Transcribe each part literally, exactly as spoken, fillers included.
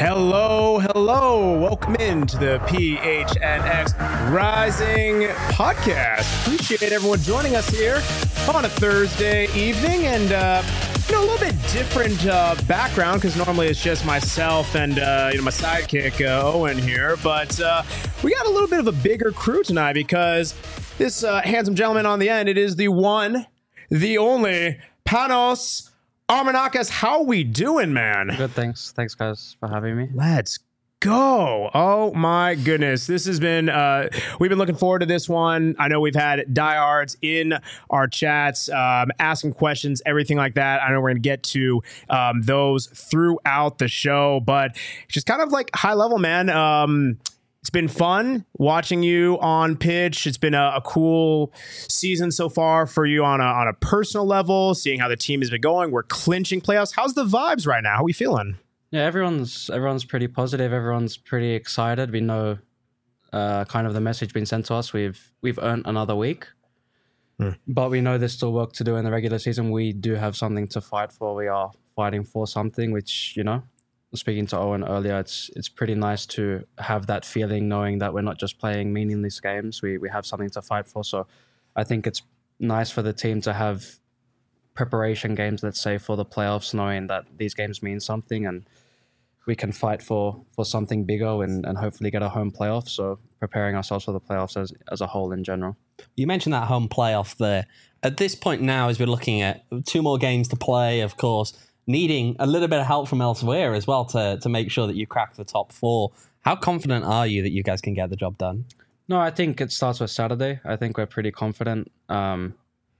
Hello, hello. Welcome into the P H N X Rising podcast. Appreciate everyone joining us here on a Thursday evening, and uh, you know, a little bit different uh, background because normally it's just myself and uh, you know my sidekick uh, Owen here, but uh, we got a little bit of a bigger crew tonight because this uh, handsome gentleman on the end, it is the one, the only Panos Armanakis. How we doing, man? Good, thanks. Thanks, guys, for having me. Let's go. Oh, my goodness. This has been, uh, we've been looking forward to this one. I know we've had diehards in our chats, um, asking questions, everything like that. I know we're going to get to um, those throughout the show, but just kind of like high level, man. Um, It's been fun watching you on pitch. It's been a, a cool season so far for you on a, on a personal level, seeing how the team has been going. We're clinching playoffs. How's the vibes right now? How are we feeling? Yeah, everyone's everyone's pretty positive. Everyone's pretty excited. We know uh, kind of the message being sent to us. We've we've earned another week, hmm. but we know there's still work to do in the regular season. We do have something to fight for. We are fighting for something, which, you know, speaking to Owen earlier, it's it's pretty nice to have that feeling, knowing that we're not just playing meaningless games. We we have something to fight for. So I think it's nice for the team to have preparation games, let's say, for the playoffs, knowing that these games mean something and we can fight for for something bigger and, and hopefully get a home playoff. So preparing ourselves for the playoffs as, as a whole in general. You mentioned that home playoff there. At this point now, as we're looking at two more games to play, of course, needing a little bit of help from elsewhere as well to to make sure that you crack the top four. How confident are you that you guys can get the job done? No, I think it starts with Saturday. I think we're pretty confident, um,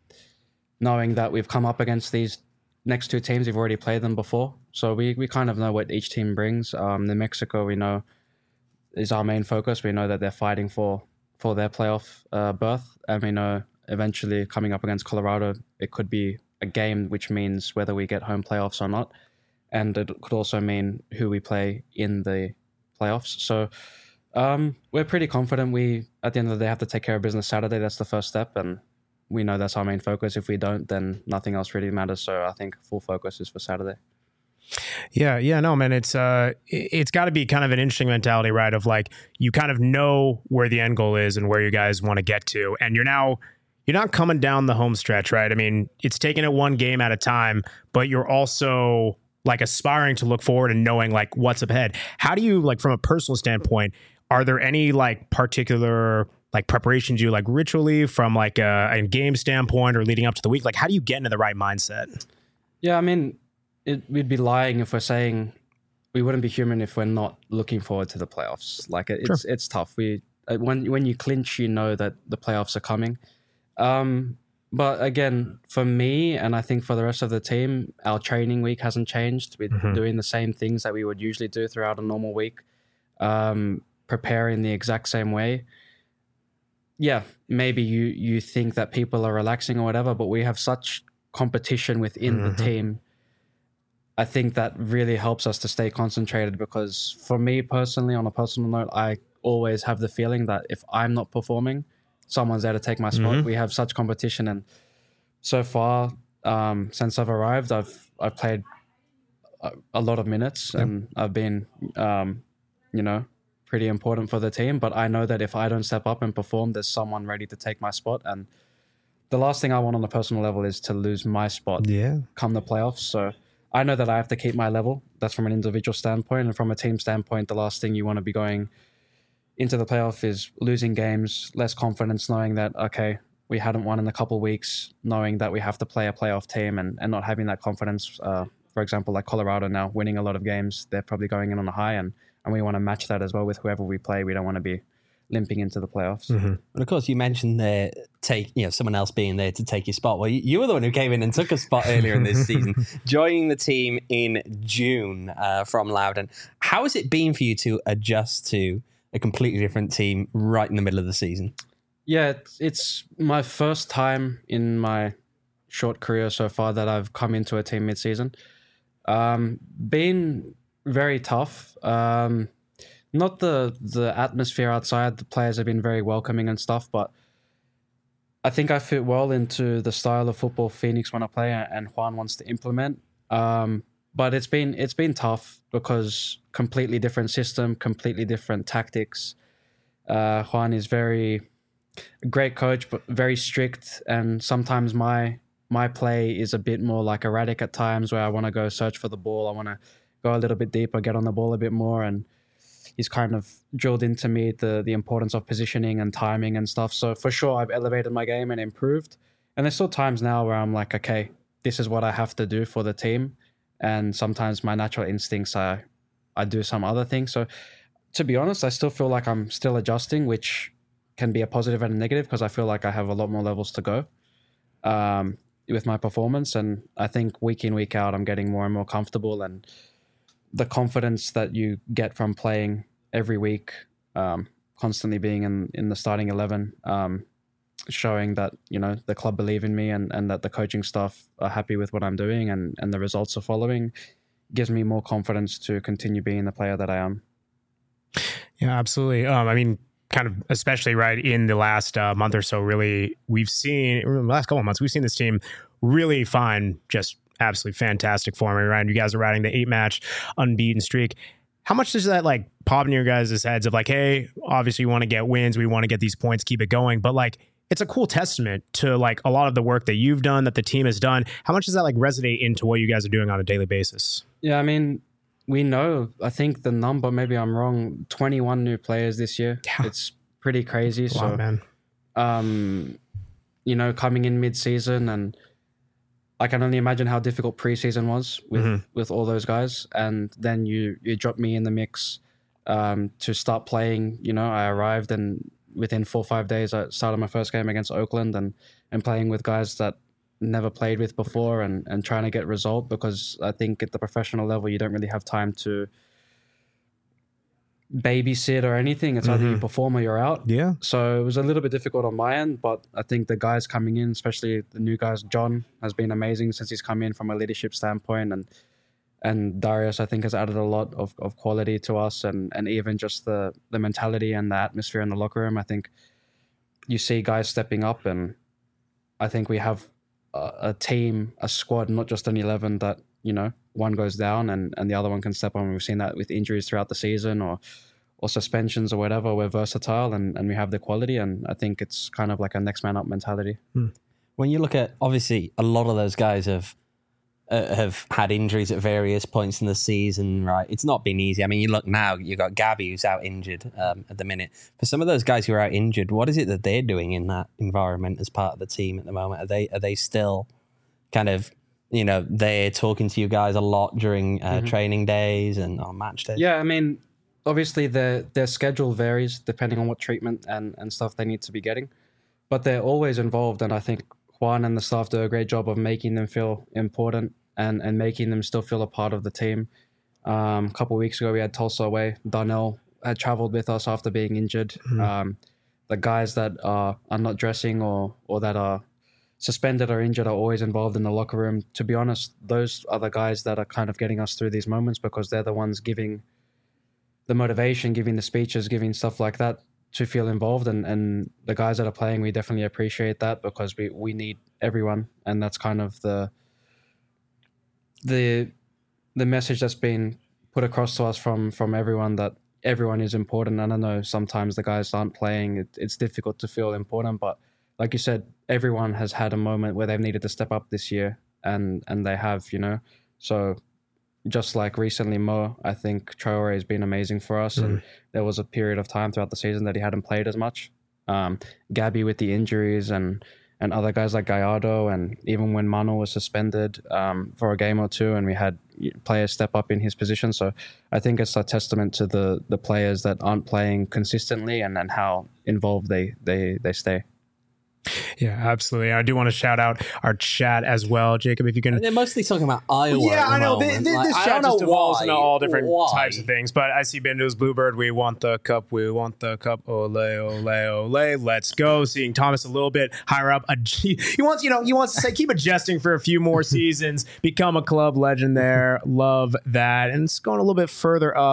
knowing that we've come up against these next two teams. We've already played them before, so we, we kind of know what each team brings. Um, New Mexico, we know, is our main focus. We know that they're fighting for, for their playoff uh, berth, and we know eventually coming up against Colorado, it could be a game, which means whether we get home playoffs or not, and it could also mean who we play in the playoffs. So um, we're pretty confident. We, at the end of the day, have to take care of business Saturday. That's the first step, and we know that's our main focus. If we don't, then nothing else really matters. So I think full focus is for Saturday. Yeah, yeah, no, man, it's uh, it's got to be kind of an interesting mentality, right? Of like, you kind of know where the end goal is and where you guys want to get to, and you're now. You're not coming down the home stretch, right? I mean, it's taking it one game at a time, but you're also like aspiring to look forward and knowing like what's up ahead. How do you, like, from a personal standpoint, are there any like particular like preparations you like ritually from like a, a game standpoint or leading up to the week? Like, how do you get into the right mindset? Yeah, I mean, it, we'd be lying if we're saying we wouldn't be human if we're not looking forward to the playoffs. Like, it's sure. it's tough. We when when you clinch, you know that the playoffs are coming. Um, but again, for me, and I think for the rest of the team, our training week hasn't changed. We're mm-hmm. doing the same things that we would usually do throughout a normal week, um, preparing the exact same way. Yeah, maybe you, you think that people are relaxing or whatever, but we have such competition within mm-hmm. the team. I think that really helps us to stay concentrated, because for me personally, on a personal note, I always have the feeling that if I'm not performing, someone's there to take my spot. Mm-hmm. We have such competition, and so far, um, since I've arrived, I've I've played a, a lot of minutes, yep. and I've been, um, you know, pretty important for the team. But I know that if I don't step up and perform, there's someone ready to take my spot. And the last thing I want on a personal level is to lose my spot. Yeah. Come the playoffs. So I know that I have to keep my level. That's from an individual standpoint, and from a team standpoint, the last thing you want to be going into the playoff is losing games, less confidence, knowing that, okay, we hadn't won in a couple of weeks, knowing that we have to play a playoff team, and, and not having that confidence. Uh, for example, like Colorado now, winning a lot of games, they're probably going in on a high, and, and we want to match that as well with whoever we play. We don't want to be limping into the playoffs. Mm-hmm. And of course, you mentioned there, take you know someone else being there to take your spot. Well, you, you were the one who came in and took a spot earlier in this season, joining the team in June uh, from Loudoun. How has it been for you to adjust to a completely different team right in the middle of the season? Yeah, it's, it's my first time in my short career so far that I've come into a team mid-season. Um, been very tough. Um, not the the atmosphere outside. The players have been very welcoming and stuff, but I think I fit well into the style of football Phoenix want to play and Juan wants to implement. Um, but it's been it's been tough because completely different system, completely different tactics. Uh, Juan is very great coach, but very strict, and sometimes my my play is a bit more like erratic at times, where I want to go search for the ball. I want to go a little bit deeper, get on the ball a bit more, and he's kind of drilled into me the the importance of positioning and timing and stuff. So for sure, I've elevated my game and improved. And there's still times now where I'm like, okay, this is what I have to do for the team. And sometimes my natural instincts are, I do some other things. So to be honest, I still feel like I'm still adjusting, which can be a positive and a negative, because I feel like I have a lot more levels to go um, with my performance. And I think week in, week out, I'm getting more and more comfortable, and the confidence that you get from playing every week, um, constantly being in, in the starting eleven, um, showing that, you know, the club believe in me, and, and that the coaching staff are happy with what I'm doing, and, and the results are following, gives me more confidence to continue being the player that I am. Yeah, absolutely. Um, I mean, kind of, especially right in the last uh, month or so, really, we've seen, in the last couple of months, we've seen this team really find just absolutely fantastic form. Right? You guys are riding the eight match unbeaten streak. How much does that like pop in your guys' heads of like, hey, obviously you want to get wins, we want to get these points, keep it going, but like, it's a cool testament to like a lot of the work that you've done, that the team has done. How much does that like resonate into what you guys are doing on a daily basis? Yeah, I mean, we know, I think the number, maybe I'm wrong, twenty-one new players this year. Yeah. It's pretty crazy. So, lot, man. Um, you know, coming in mid-season, and I can only imagine how difficult preseason was with, mm-hmm. with all those guys. And then you, you drop me in the mix um, to start playing. You know, I arrived, and within four or five days, I started my first game against Oakland, and, and playing with guys that never played with before, and, and trying to get result, because I think at the professional level, you don't really have time to babysit or anything. It's mm-hmm. either you perform or you're out. Yeah. So it was a little bit difficult on my end, but I think the guys coming in, especially the new guys, John has been amazing since he's come in from a leadership standpoint, and and Darius, I think, has added a lot of, of quality to us, and, and even just the, the mentality and the atmosphere in the locker room. I think you see guys stepping up, and I think we have a, a team, a squad, not just an eleven that, you know, one goes down and, and the other one can step on. We've seen that with injuries throughout the season, or or suspensions or whatever. We're versatile, and, and we have the quality, and I think it's kind of like a next man up mentality. Hmm. When you look at, obviously, a lot of those guys have uh, have had injuries at various points in the season, right? It's not been easy. I mean, you look now, you've got Gabby who's out injured um, at the minute. For some of those guys who are out injured, what is it that they're doing in that environment as part of the team at the moment? Are they are they still kind of, you know, they're talking to you guys a lot during uh, mm-hmm. training days and on match days? Yeah, I mean, obviously their their schedule varies depending on what treatment and, and stuff they need to be getting, but they're always involved, and I think Juan and the staff do a great job of making them feel important and, and making them still feel a part of the team. Um, a couple of weeks ago, we had Tulsa away. Darnell had traveled with us after being injured. Mm-hmm. Um, the guys that are, are not dressing or or that are suspended or injured are always involved in the locker room. To be honest, those are the guys that are kind of getting us through these moments, because they're the ones giving the motivation, giving the speeches, giving stuff like that to feel involved. And, and the guys that are playing, we definitely appreciate that, because we, we need everyone. And that's kind of the the the message that's been put across to us from from everyone, that everyone is important. And I know sometimes the guys aren't playing. It, it's difficult to feel important, but like you said, everyone has had a moment where they've needed to step up this year, and and they have, you know. So just like recently, Mo, I think Traore has been amazing for us, mm. and there was a period of time throughout the season that he hadn't played as much. Um, Gabby with the injuries, and and other guys like Gallardo, and even when Mano was suspended um, for a game or two, and we had players step up in his position. So I think it's a testament to the the players that aren't playing consistently, and, and how involved they they they stay. Yeah, absolutely. I do want to shout out our chat as well, Jacob. If you can, they're mostly talking about Iowa. Yeah, I know. This, this like, chat just evolves into all different why? types of things. But I see Bindo's Bluebird. We want the cup. We want the cup. Ole, ole, ole. Let's go. Seeing Thomas a little bit higher up. He wants, you know, he wants to say keep adjusting for a few more seasons. Become a club legend there. Love that. And it's going a little bit further up.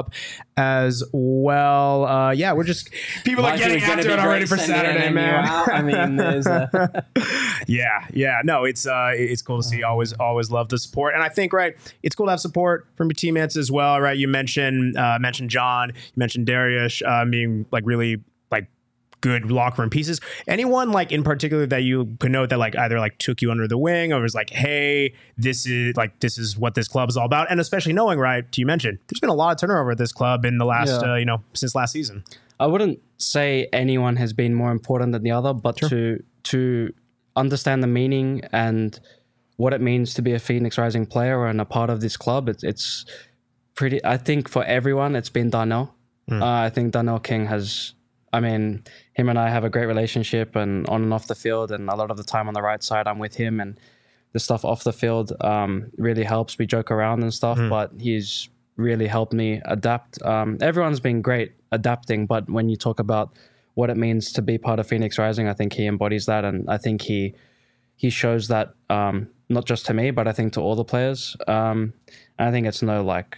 as well. Uh, yeah, we're just people are Life getting is gonna after be it already great for sending Saturday, an man. M U out. I mean, there's a- yeah, yeah. No, it's uh, it's cool to see. Always, always love the support, and I think right, it's cool to have support from your teammates as well. Right, you mentioned uh, mentioned John, you mentioned Darius uh, being like really like good locker room pieces. Anyone like in particular that you could note that like either like took you under the wing or was like, hey, this is like this is what this club is all about, and especially knowing right, you mentioned there's been a lot of turnover at this club in the last Yeah. uh, you know since last season. I wouldn't say anyone has been more important than the other, but Sure. to to understand the meaning and what it means to be a Phoenix Rising player and a part of this club, it's it's pretty. I think for everyone, it's been Darnell. Mm. Uh, I think Darnell King has. I mean, him and I have a great relationship, and on and off the field, and a lot of the time on the right side, I'm with him, and the stuff off the field um, really helps. We joke around and stuff, Mm. but he's really helped me adapt. Um, everyone's been great adapting, but when you talk about what it means to be part of Phoenix Rising, I think he embodies that, and I think he he shows that um, not just to me, but I think to all the players. Um, and I think it's no like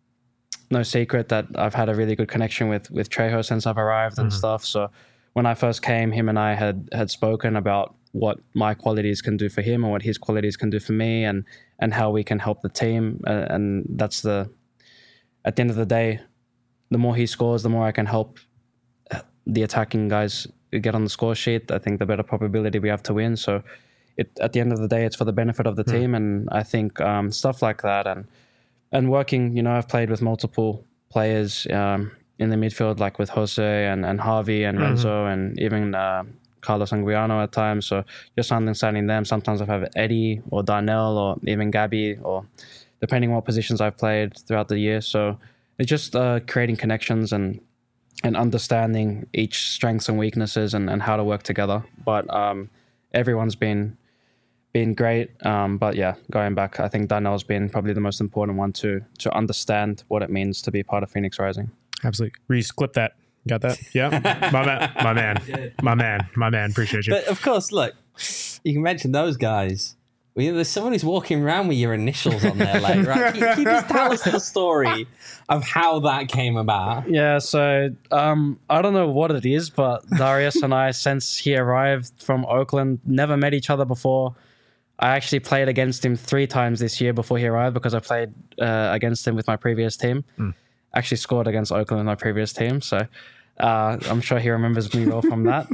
no secret that I've had a really good connection with with Trejo since I've arrived and Mhm. stuff. So when I first came, him and I had had spoken about what my qualities can do for him and what his qualities can do for me, and and how we can help the team. Uh, and that's the at the end of the day, the more he scores, the more I can help the attacking guys get on the score sheet. I think the better probability we have to win. So it at the end of the day, it's for the benefit of the Mm. team. And I think um, stuff like that and and working, you know, I've played with multiple players um, in the midfield, like with Jose and, and Harvey and Mhm. Renzo and even uh, Carlos Anguiano at times. So just understanding them. Sometimes I've had Eddie or Darnell or even Gabby, or depending on what positions I've played throughout the year. So it's just uh, creating connections and and understanding each strengths and weaknesses and, and how to work together. But um, everyone's been been great. Um, but yeah, going back, I think Darnell's been probably the most important one to to understand what it means to be part of Phoenix Rising. Absolutely, Reese, clip that. Got that? Yeah, my man, my man, my man, my man. Appreciate you. But of course, look, you can mention those guys. Well, there's someone who's walking around with your initials on their leg, right? Can, can you just tell us the story of how that came about? Yeah, so um, I don't know what it is, but Darius and I, since he arrived from Oakland, never met each other before. I actually played against him three times this year before he arrived because I played uh, against him with my previous team. Mm. Actually scored against Oakland in my previous team, so uh, I'm sure he remembers me well from that.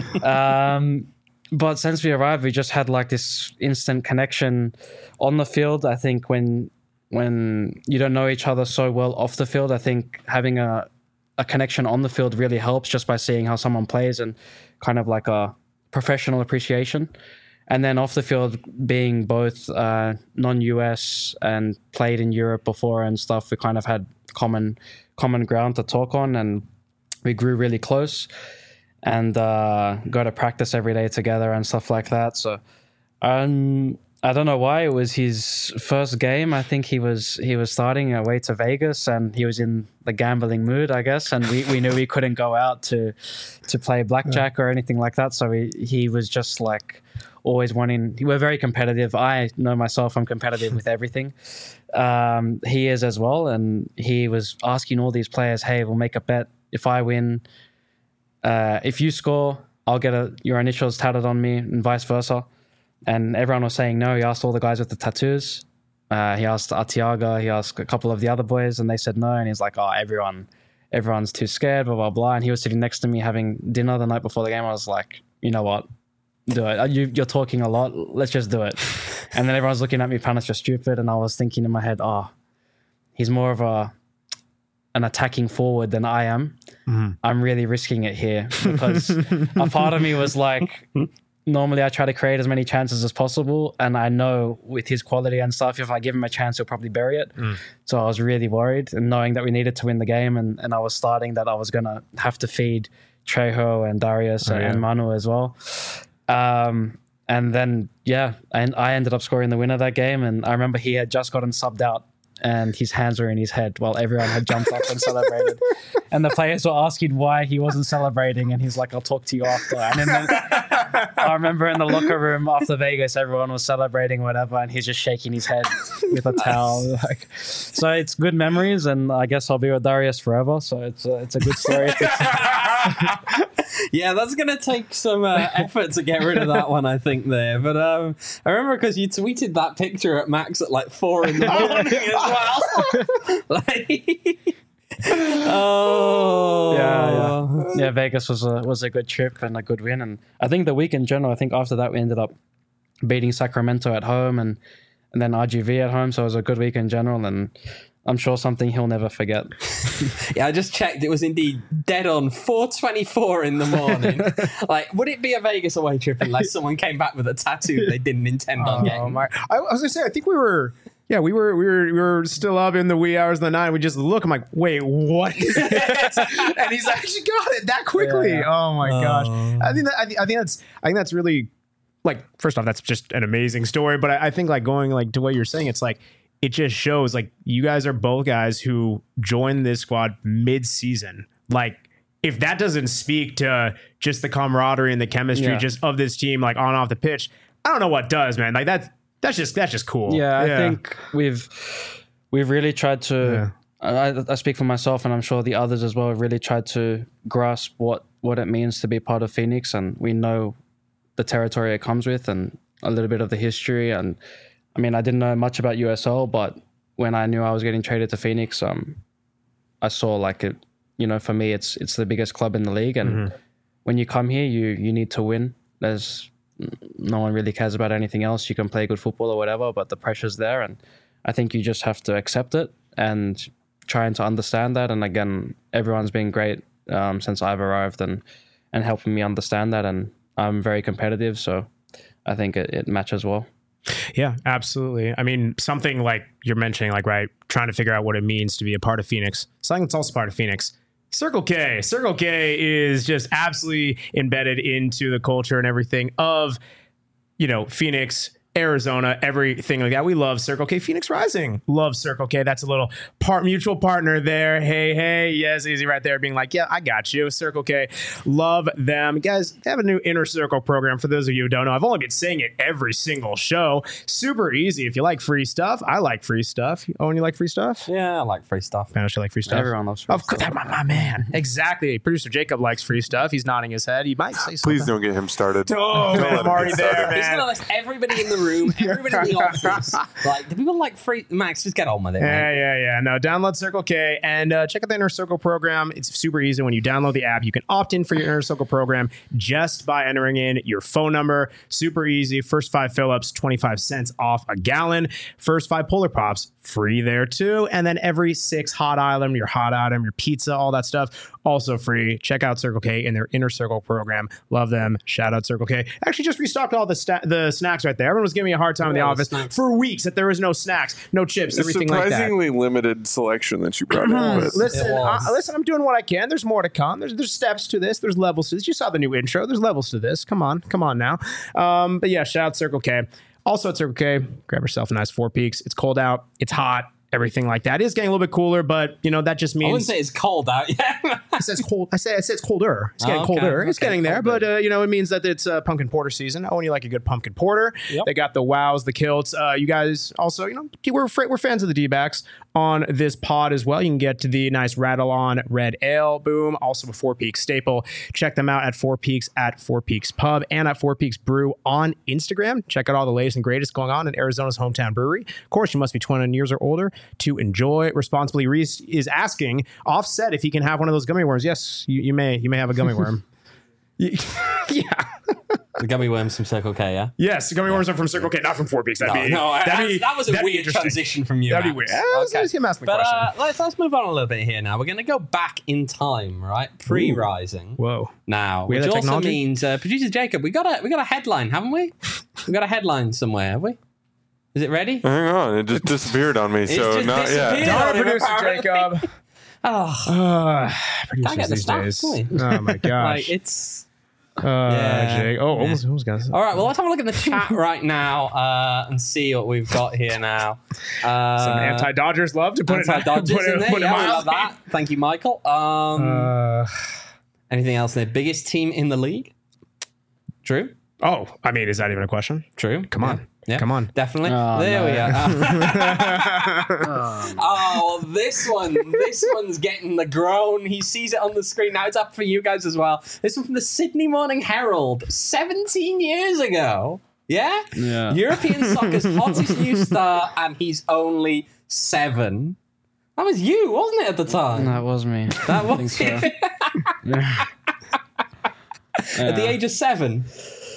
Um, but since we arrived, we just had like this instant connection on the field. I think when when you don't know each other so well off the field, I think having a a connection on the field really helps just by seeing how someone plays and kind of like a professional appreciation. And then off the field, being both uh, non-U S and played in Europe before and stuff, we kind of had common common ground to talk on, and we grew really close and uh, go to practice every day together and stuff like that. So um, I don't know why. It was his first game. I think he was he was starting away to Vegas, and he was in the gambling mood, I guess. And we, we knew we couldn't go out to to play blackjack or anything like that. So he, he was just like always wanting. We're very competitive. I know myself, I'm competitive with everything. Um, he is as well, and he was asking all these players, "Hey, we'll make a bet. If I win, uh, if you score, I'll get a, your initials tatted on me, and vice versa." And everyone was saying no. He asked all the guys with the tattoos. Uh, he asked Artiaga. He asked a couple of the other boys, and they said no. And he's like, "Oh, everyone, everyone's too scared." Blah blah blah. And he was sitting next to me having dinner the night before the game. I was like, "You know what? Do it. You, you're talking a lot. Let's just do it." And then everyone's looking at me, Panis, you're stupid. And I was thinking in my head, "Oh, he's more of a an attacking forward than I am. Mm-hmm. I'm really risking it here," because a part of me was like, normally I try to create as many chances as possible, and I know with his quality and stuff, if I give him a chance, he'll probably bury it. Mm. So I was really worried, and knowing that we needed to win the game, and, and I was starting that I was going to have to feed Trejo and Darius oh, and, yeah. and Manu as well. Um, and then, yeah, and I ended up scoring the winner that game, and I remember he had just gotten subbed out, and his hands were in his head while everyone had jumped up and celebrated. And the players were asking why he wasn't celebrating, and he's like, "I'll talk to you after." And then I remember in the locker room after Vegas, everyone was celebrating whatever, and he's just shaking his head with a towel. Like, so it's good memories, and I guess I'll be with Darius forever. So it's a, it's a good story. Yeah, that's going to take some uh, effort to get rid of that one, I think, there. But um, I remember because you tweeted that picture at Max at like four in the morning as well. Like, oh. Yeah, yeah. Yeah, Vegas was a, was a good trip and a good win. And I think the week in general, I think after that we ended up beating Sacramento at home and, and then R G V at home. So it was a good week in general. And I'm sure something he'll never forget. Yeah, I just checked. It was indeed dead on four twenty-four in the morning. Like, would it be a Vegas away trip unless someone came back with a tattoo they didn't intend on Oh getting? my! I, I was gonna say, I think we were. Yeah, we were we were we were still up in the wee hours of the night. We just look. I'm like, wait, what is this? And he's actually got it that quickly. Yeah. Oh my Oh. gosh! I think that I, think- I think that's I think that's really like. First off, that's just an amazing story. But I, I think like going like to what you're saying, it's like it just shows like you guys are both guys who joined this squad mid-season. Like if that doesn't speak to just the camaraderie and the chemistry Yeah. just of this team, like on and off the pitch, I don't know what does, man. Like that's that's just that's just cool. Yeah, I think we've we've really tried to. I, I speak for myself, and I'm sure the others as well. Have really tried to grasp what what it means to be part of Phoenix, and we know the territory it comes with, and a little bit of the history. And I mean, I didn't know much about U S L, but when I knew I was getting traded to Phoenix, um, I saw like it. You know, for me, it's it's the biggest club in the league, and Mm-hmm. when you come here, you you need to win. There's no one really cares about anything else. You can play good football or whatever, but the pressure's there, and I think you just have to accept it and trying to understand that. And again, everyone's been great um, since I've arrived and and helping me understand that. And I'm very competitive, so I think it, it matches well. Yeah, absolutely. I mean, something like you're mentioning, like, right, trying to figure out what it means to be a part of Phoenix. Something that's also part of Phoenix. Circle K. Circle K is just absolutely embedded into the culture and everything of, you know, Phoenix, Arizona, everything like that. We love Circle K. Phoenix Rising. Love Circle K. That's a little part mutual partner there. Hey, hey. Yes, easy right there being like, yeah, I got you. Circle K. Love them. Guys, they have a new Inner Circle program for those of you who don't know. I've only been saying it every single show. Super easy. If you like free stuff, I like free stuff. Oh, and you like free stuff? Yeah, I like free stuff. Man, I should like free stuff. Everyone loves free Of course, my, my man. Exactly. Producer Jacob likes free stuff. He's nodding his head. He might say something. Please don't get him started. Oh, Don't man, let him I'm already get there, started. man. Isn't it like everybody in the room, everybody in the office? Like, do people like free? Max, just get on with it. Yeah, Man. yeah, yeah. No, download Circle K and uh, check out the Inner Circle program. It's super easy. When you download the app, you can opt in for your Inner Circle program just by entering in your phone number. Super easy. First five fill-ups, twenty-five cents off a gallon. First five Polar Pops, free there too. And then every six hot item, your hot item, your pizza, all that stuff, also free. Check out Circle K and their Inner Circle program. Love them. Shout out Circle K. Actually, just restocked all the sta- the snacks right there. Everyone was giving me a hard time in the Yeah, the office snacks. for weeks that there was no snacks, no chips, It's everything like that. surprisingly limited selection that you brought in. But Listen, It was. uh, listen. I'm doing what I can. There's more to come. There's there's steps to this. There's levels to this. You saw the new intro. There's levels to this. Come on, come on now. Um, but yeah, shout out Circle K. Also at Circle K, grab yourself a nice Four Peaks. It's cold out. It's hot. Everything like that. It is getting a little bit cooler, but you know that just I wouldn't means say it's cold out yet. it says cold. I say I say it's colder. It's getting Oh, okay, colder. It's okay, getting there, colder. but uh, you know it means that it's uh, pumpkin porter season. Oh, and you like a good pumpkin porter. Yep. They got the wows, the kilts. Uh, you guys also, you know, we're fr- we're fans of the D-backs on this pod as well. You can get to the nice Rattle On Red Ale. Boom. Also a Four Peaks staple. Check them out at Four Peaks at Four Peaks Pub and at Four Peaks Brew on Instagram. Check out all the latest and greatest going on in Arizona's hometown brewery. Of course, you must be twenty-one years or older to enjoy responsibly. Reese is asking Offset if he can have one of those gummy worms. Yes, you, you may. You may have a gummy worm. Y- yeah. The gummy worms from Circle K, yeah? Yes, gummy worms are from Circle K, not from Four Peaks. That'd No, be, no, that'd that's- be, that was a that'd be weird interesting. transition from you. That'd be Max. weird. Uh, let's- Okay. let's him ask the But question. uh, let's, let's move on a little bit here now. We're going to go back in time, right? Pre-rising. Whoa. Now, We have which that also technology? means, uh, producer Jacob, we got a we got a headline, haven't we? We got a headline somewhere, have we? Is it ready? hang on, it just disappeared on me. So just not disappeared. yet. Darn on him, producer apparently. Jacob. Oh, Uh, Can't producers get the these stats, days. can we? Oh my like gosh. it's. uh, yeah. Jake. Oh, Yeah. almost, almost got All right, well, let's have a look at the chat right now uh, and see what we've got here now. Uh, some anti-Dodgers love to put it, Anti-Dodgers put it, in there. put it Yeah, we mildly. love that. Thank you, Michael. Um, Uh, anything else there? Biggest team in the league? Drew? Oh, I mean, is that even a question? True. Come on. Yeah. Come on. Definitely. Oh, there no. we are. Oh, this one. This one's getting the groan. He sees it on the screen. Now it's up for you guys as well. This one from the Sydney Morning Herald. seventeen years ago. Yeah? Yeah. European soccer's hottest new star, and he's only seven. That was you, wasn't it, at the time? That was me. That I was think so. Yeah. At the age of seven.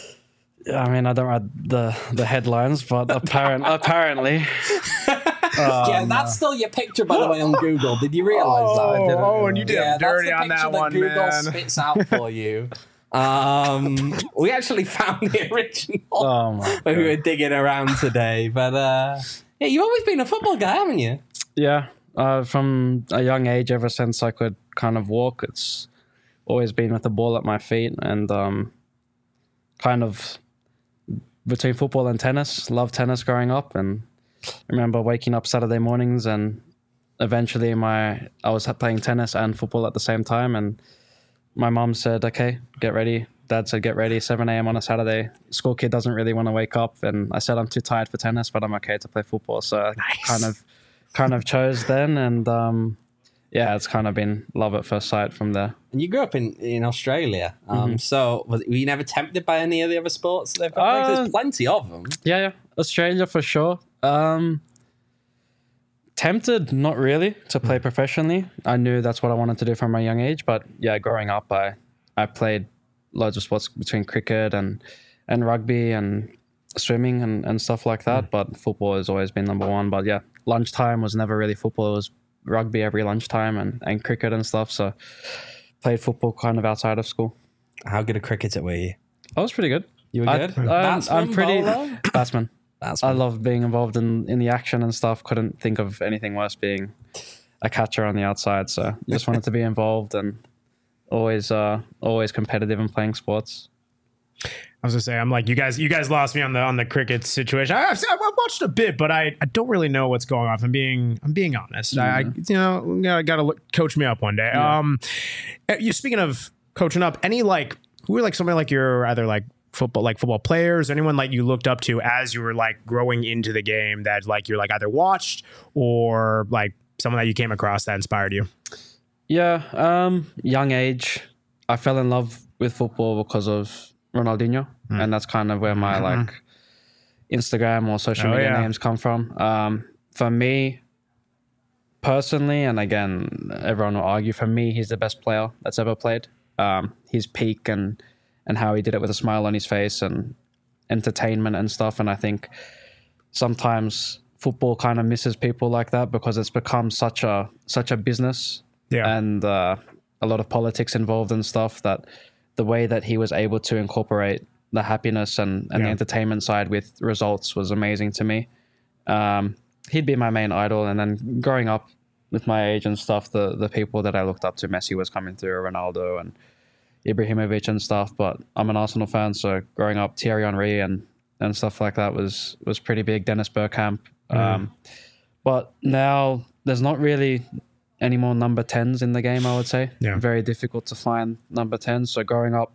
I mean, I don't read the, the headlines, but apparent, apparently. yeah, that's still your picture, by the way, on Google. Did you realise that? I didn't. Oh, and you did Yeah, him dirty that's on the that picture one, Google man. spits out for you. Um, we actually found the original Oh my when we God. were digging around today. But uh, yeah, you've always been a football guy, haven't you? Yeah, uh, from a young age, ever since I could kind of walk, it's always been with the ball at my feet, and um, kind of between football and tennis. Loved tennis growing up, and I remember waking up Saturday mornings, and eventually my I was playing tennis and football at the same time, and my mum said, "Okay, get ready." Dad said, "Get ready." seven a.m. on a Saturday. School kid doesn't really want to wake up, and I said, "I'm too tired for tennis, but I'm okay to play football." So I Nice. kind of, kind of chose then, and um, yeah, it's kind of been love at first sight from there. And you grew up in, in Australia. Um, So was, were you never tempted by any of the other sports they've got? Like, Uh, there's plenty of them. Yeah, yeah, Australia for sure. Um, tempted, not really, to play professionally. I knew that's what I wanted to do from a young age, but yeah, growing up, I I played loads of sports between cricket and and rugby and swimming and, and stuff like that. But football has always been number one. But yeah, lunchtime was never really football. It was rugby every lunchtime and, and cricket and stuff. So played football kind of outside of school. How good a cricketer were you? I was pretty good. You were I- good? I'm, Batsman, I'm pretty bowler? batsman. That's I love being involved in, in the action and stuff. Couldn't think of anything worse being a catcher on the outside. So just wanted to be involved and always uh, always competitive in playing sports. I was gonna say, I'm like, you guys, you guys lost me on the on the cricket situation. I, I've, I've watched a bit, but I, I don't really know what's going on. If I'm being I'm being honest. I, I you know gotta, gotta look, coach me up one day. Yeah. Um, you speaking of coaching up, any like who are like somebody like your either like football like football players, anyone like you looked up to as you were like growing into the game that like you're like either watched or like someone that you came across that inspired you? Yeah, um, young age, I fell in love with football because of Ronaldinho, Mm. and that's kind of where my like Instagram or social Oh, media yeah. names come from. Um, for me, personally, and again, everyone will argue, for me, he's the best player that's ever played. Um, his peak and and how he did it with a smile on his face and entertainment and stuff. And I think sometimes football kind of misses people like that because it's become such a such a business Yeah. and uh, a lot of politics involved and stuff, that the way that he was able to incorporate the happiness and, and the Yeah. entertainment side with results was amazing to me. Um, he'd be my main idol. And then growing up with my age and stuff, the, the people that I looked up to, Messi was coming through, Ronaldo and Ibrahimovic and stuff. But I'm an Arsenal fan, so growing up, Thierry Henry and, and stuff like that was, was pretty big. Dennis Bergkamp. Um, but now there's not really any more number tens in the game, I would say. Yeah. Very difficult to find number tens. So growing up,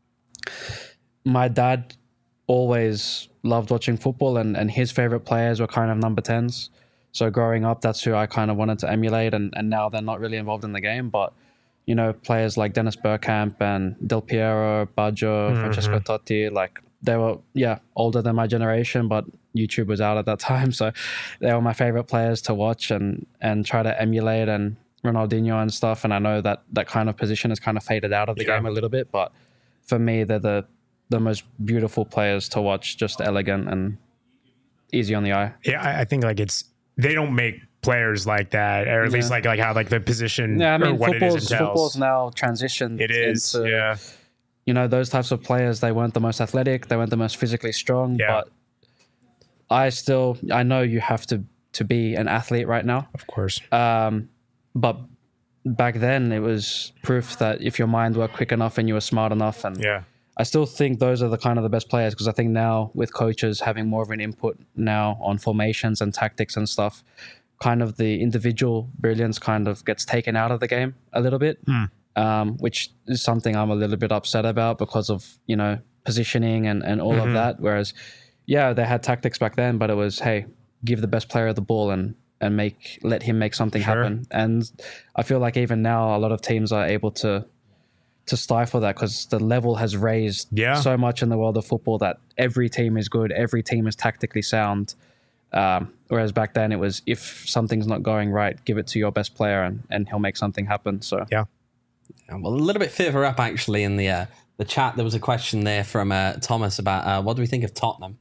my dad always loved watching football, and, and his favorite players were kind of number tens. So growing up, that's who I kind of wanted to emulate, and, and now they're not really involved in the game. But, you know, players like Dennis Bergkamp and Del Piero, Baggio, Francesco Totti, like they were, yeah, older than my generation, but YouTube was out at that time. So they were my favorite players to watch and, and try to emulate, and Ronaldinho and stuff. And I know that that kind of position has kind of faded out of the Yeah. game a little bit, but for me, they're the, the most beautiful players to watch, just elegant and easy on the eye. Yeah, I, I think like it's they don't make players like that, or at least Yeah. like like how like the position Yeah, I or mean, what it is football's, entails. football's now transitioned. It is, into, yeah. you know, those types of players, they weren't the most athletic, they weren't the most physically strong, Yeah. but I still, I know you have to, to be an athlete right now. Of course. Um, but back then it was proof that if your mind worked quick enough and you were smart enough, and Yeah. I still think those are the kind of the best players, because I think now with coaches having more of an input now on formations and tactics and stuff, kind of the individual brilliance kind of gets taken out of the game a little bit, um, which is something I'm a little bit upset about because of, you know, positioning and, and all mm-hmm. of that. Whereas, yeah, they had tactics back then, but it was, hey, give the best player the ball and and make let him make something sure. happen. And I feel like even now, a lot of teams are able to to stifle that because the level has raised yeah. so much in the world of football that every team is good, every team is tactically sound. Um, whereas back then it was, if something's not going right, give it to your best player and, and he'll make something happen. So yeah. yeah well, a little bit further up actually in the uh, the chat, there was a question there from uh, Thomas about uh, what do we think of Tottenham?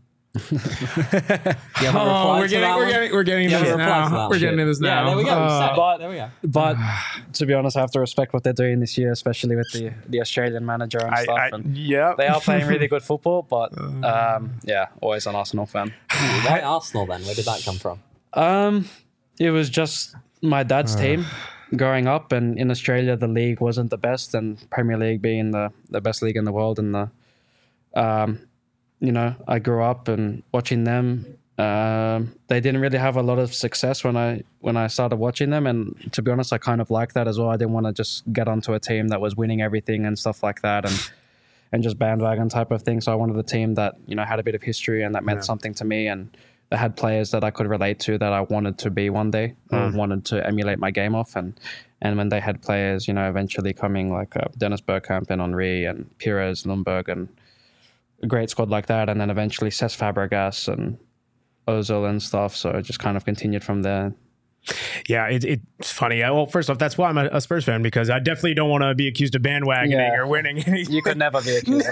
oh, we're getting, we're getting, we're getting into this now. We're getting into this now. Yeah, there we go. Uh, but there we go. But to be honest, I have to respect what they're doing this year, especially with the the Australian manager and I, stuff. I, and yeah, they are playing really good football. But um, yeah, always an Arsenal fan. Why Arsenal then? Where did that come from? Um, it was just my dad's uh. team growing up, and in Australia the league wasn't the best, and Premier League being the the best league in the world, and the um. You know, I grew up and watching them. Um, they didn't really have a lot of success when I when I started watching them, and to be honest, I kind of liked that as well. I didn't want to just get onto a team that was winning everything and stuff like that, and and just bandwagon type of thing. So I wanted a team that, you know, had a bit of history and that meant yeah. something to me, and that had players that I could relate to, that I wanted to be one day, mm. or wanted to emulate my game off. And and when they had players, you know, eventually coming like uh, Dennis Bergkamp and Henry and Pires, Lundberg, and a great squad like that, and then eventually Cesc Fabregas and Ozil and stuff. So it just kind of continued from there. Yeah, it, it's funny. Well, first off, that's why I'm a, a Spurs fan, because I definitely don't want to be accused of bandwagoning yeah. or winning. You could never be accused of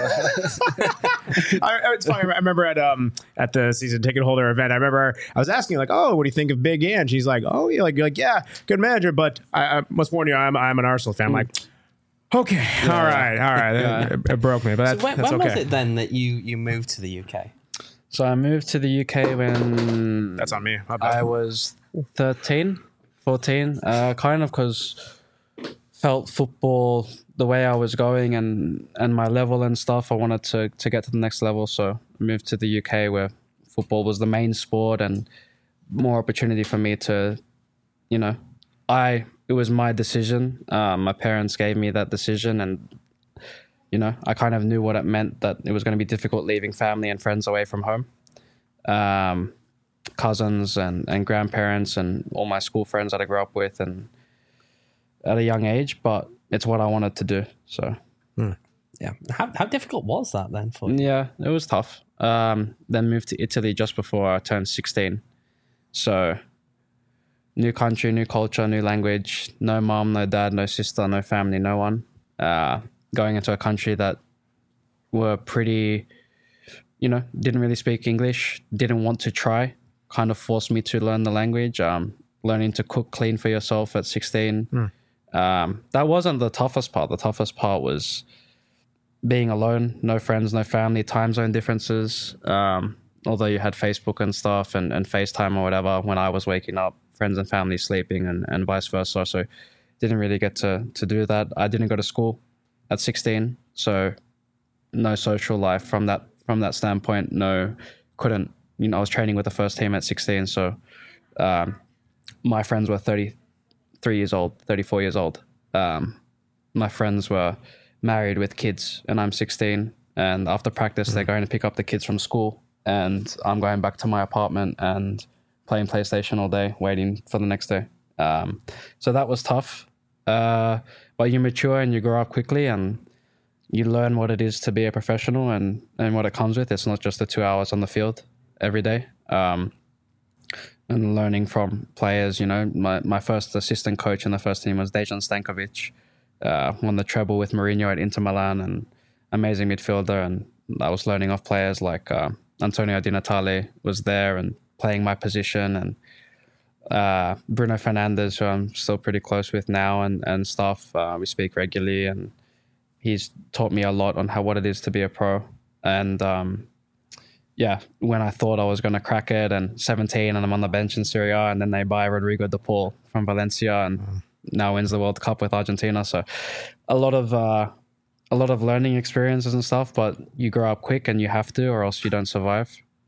that. I, it's funny. I remember at um at the season ticket holder event, I remember I was asking like, oh, what do you think of Big Ange? She's like, oh, yeah, like, like yeah, good manager, but I, I must warn you, I'm I'm an Arsenal fan. I'm like, okay, yeah. all right, all right. Yeah. It, it broke me, but that's, so when, that's when okay. was it then that you, you moved to the U K? So I moved to the U K when... That's on me. I was thirteen, fourteen, uh, kind of because felt football, the way I was going and, and my level and stuff, I wanted to, to get to the next level. So I moved to the U K where football was the main sport and more opportunity for me to, you know, I... It was my decision. Um, my parents gave me that decision, and you know, I kind of knew what it meant, that it was going to be difficult leaving family and friends away from home, um, cousins and, and grandparents and all my school friends that I grew up with, and at a young age. But it's what I wanted to do. So, hmm. yeah. How how difficult was that then for you? Yeah, it was tough. Um, then moved to Italy just before I turned sixteen. So. New country, new culture, new language, no mom, no dad, no sister, no family, no one. Uh, going into a country that were pretty, you know, didn't really speak English, didn't want to try, kind of forced me to learn the language. Um, learning to cook, clean for yourself at sixteen. Mm. Um, that wasn't the toughest part. The toughest part was being alone, no friends, no family, time zone differences. Um, although you had Facebook and stuff and, and FaceTime or whatever, when I was waking up, friends and family sleeping and, and vice versa. So didn't really get to, to do that. I didn't go to school at sixteen. So no social life from that, from that standpoint. No, couldn't, you know, I was training with the first team at sixteen. So um, my friends were thirty-three years old, thirty-four years old. Um, my friends were married with kids and I'm sixteen. And after practice, mm-hmm. they're going to pick up the kids from school and I'm going back to my apartment and playing PlayStation all day, waiting for the next day. Um, so that was tough. Uh, but you mature and you grow up quickly and you learn what it is to be a professional and, and what it comes with. It's not just the two hours on the field every day. Um, and learning from players, you know, my, my first assistant coach in the first team was Dejan Stankovic. Uh, won the treble with Mourinho at Inter Milan, and amazing midfielder. And I was learning off players like uh, Antonio Di Natale was there and playing my position, and uh, Bruno Fernandes, who I'm still pretty close with now, and, and stuff. Uh, we speak regularly, and he's taught me a lot on how what it is to be a pro. And um, yeah, when I thought I was going to crack it, and seventeen, and I'm on the bench in Serie A, and then they buy Rodrigo de Paul from Valencia, and mm. now wins the World Cup with Argentina. So a lot of uh, a lot of learning experiences and stuff, but you grow up quick, and you have to, or else you don't survive.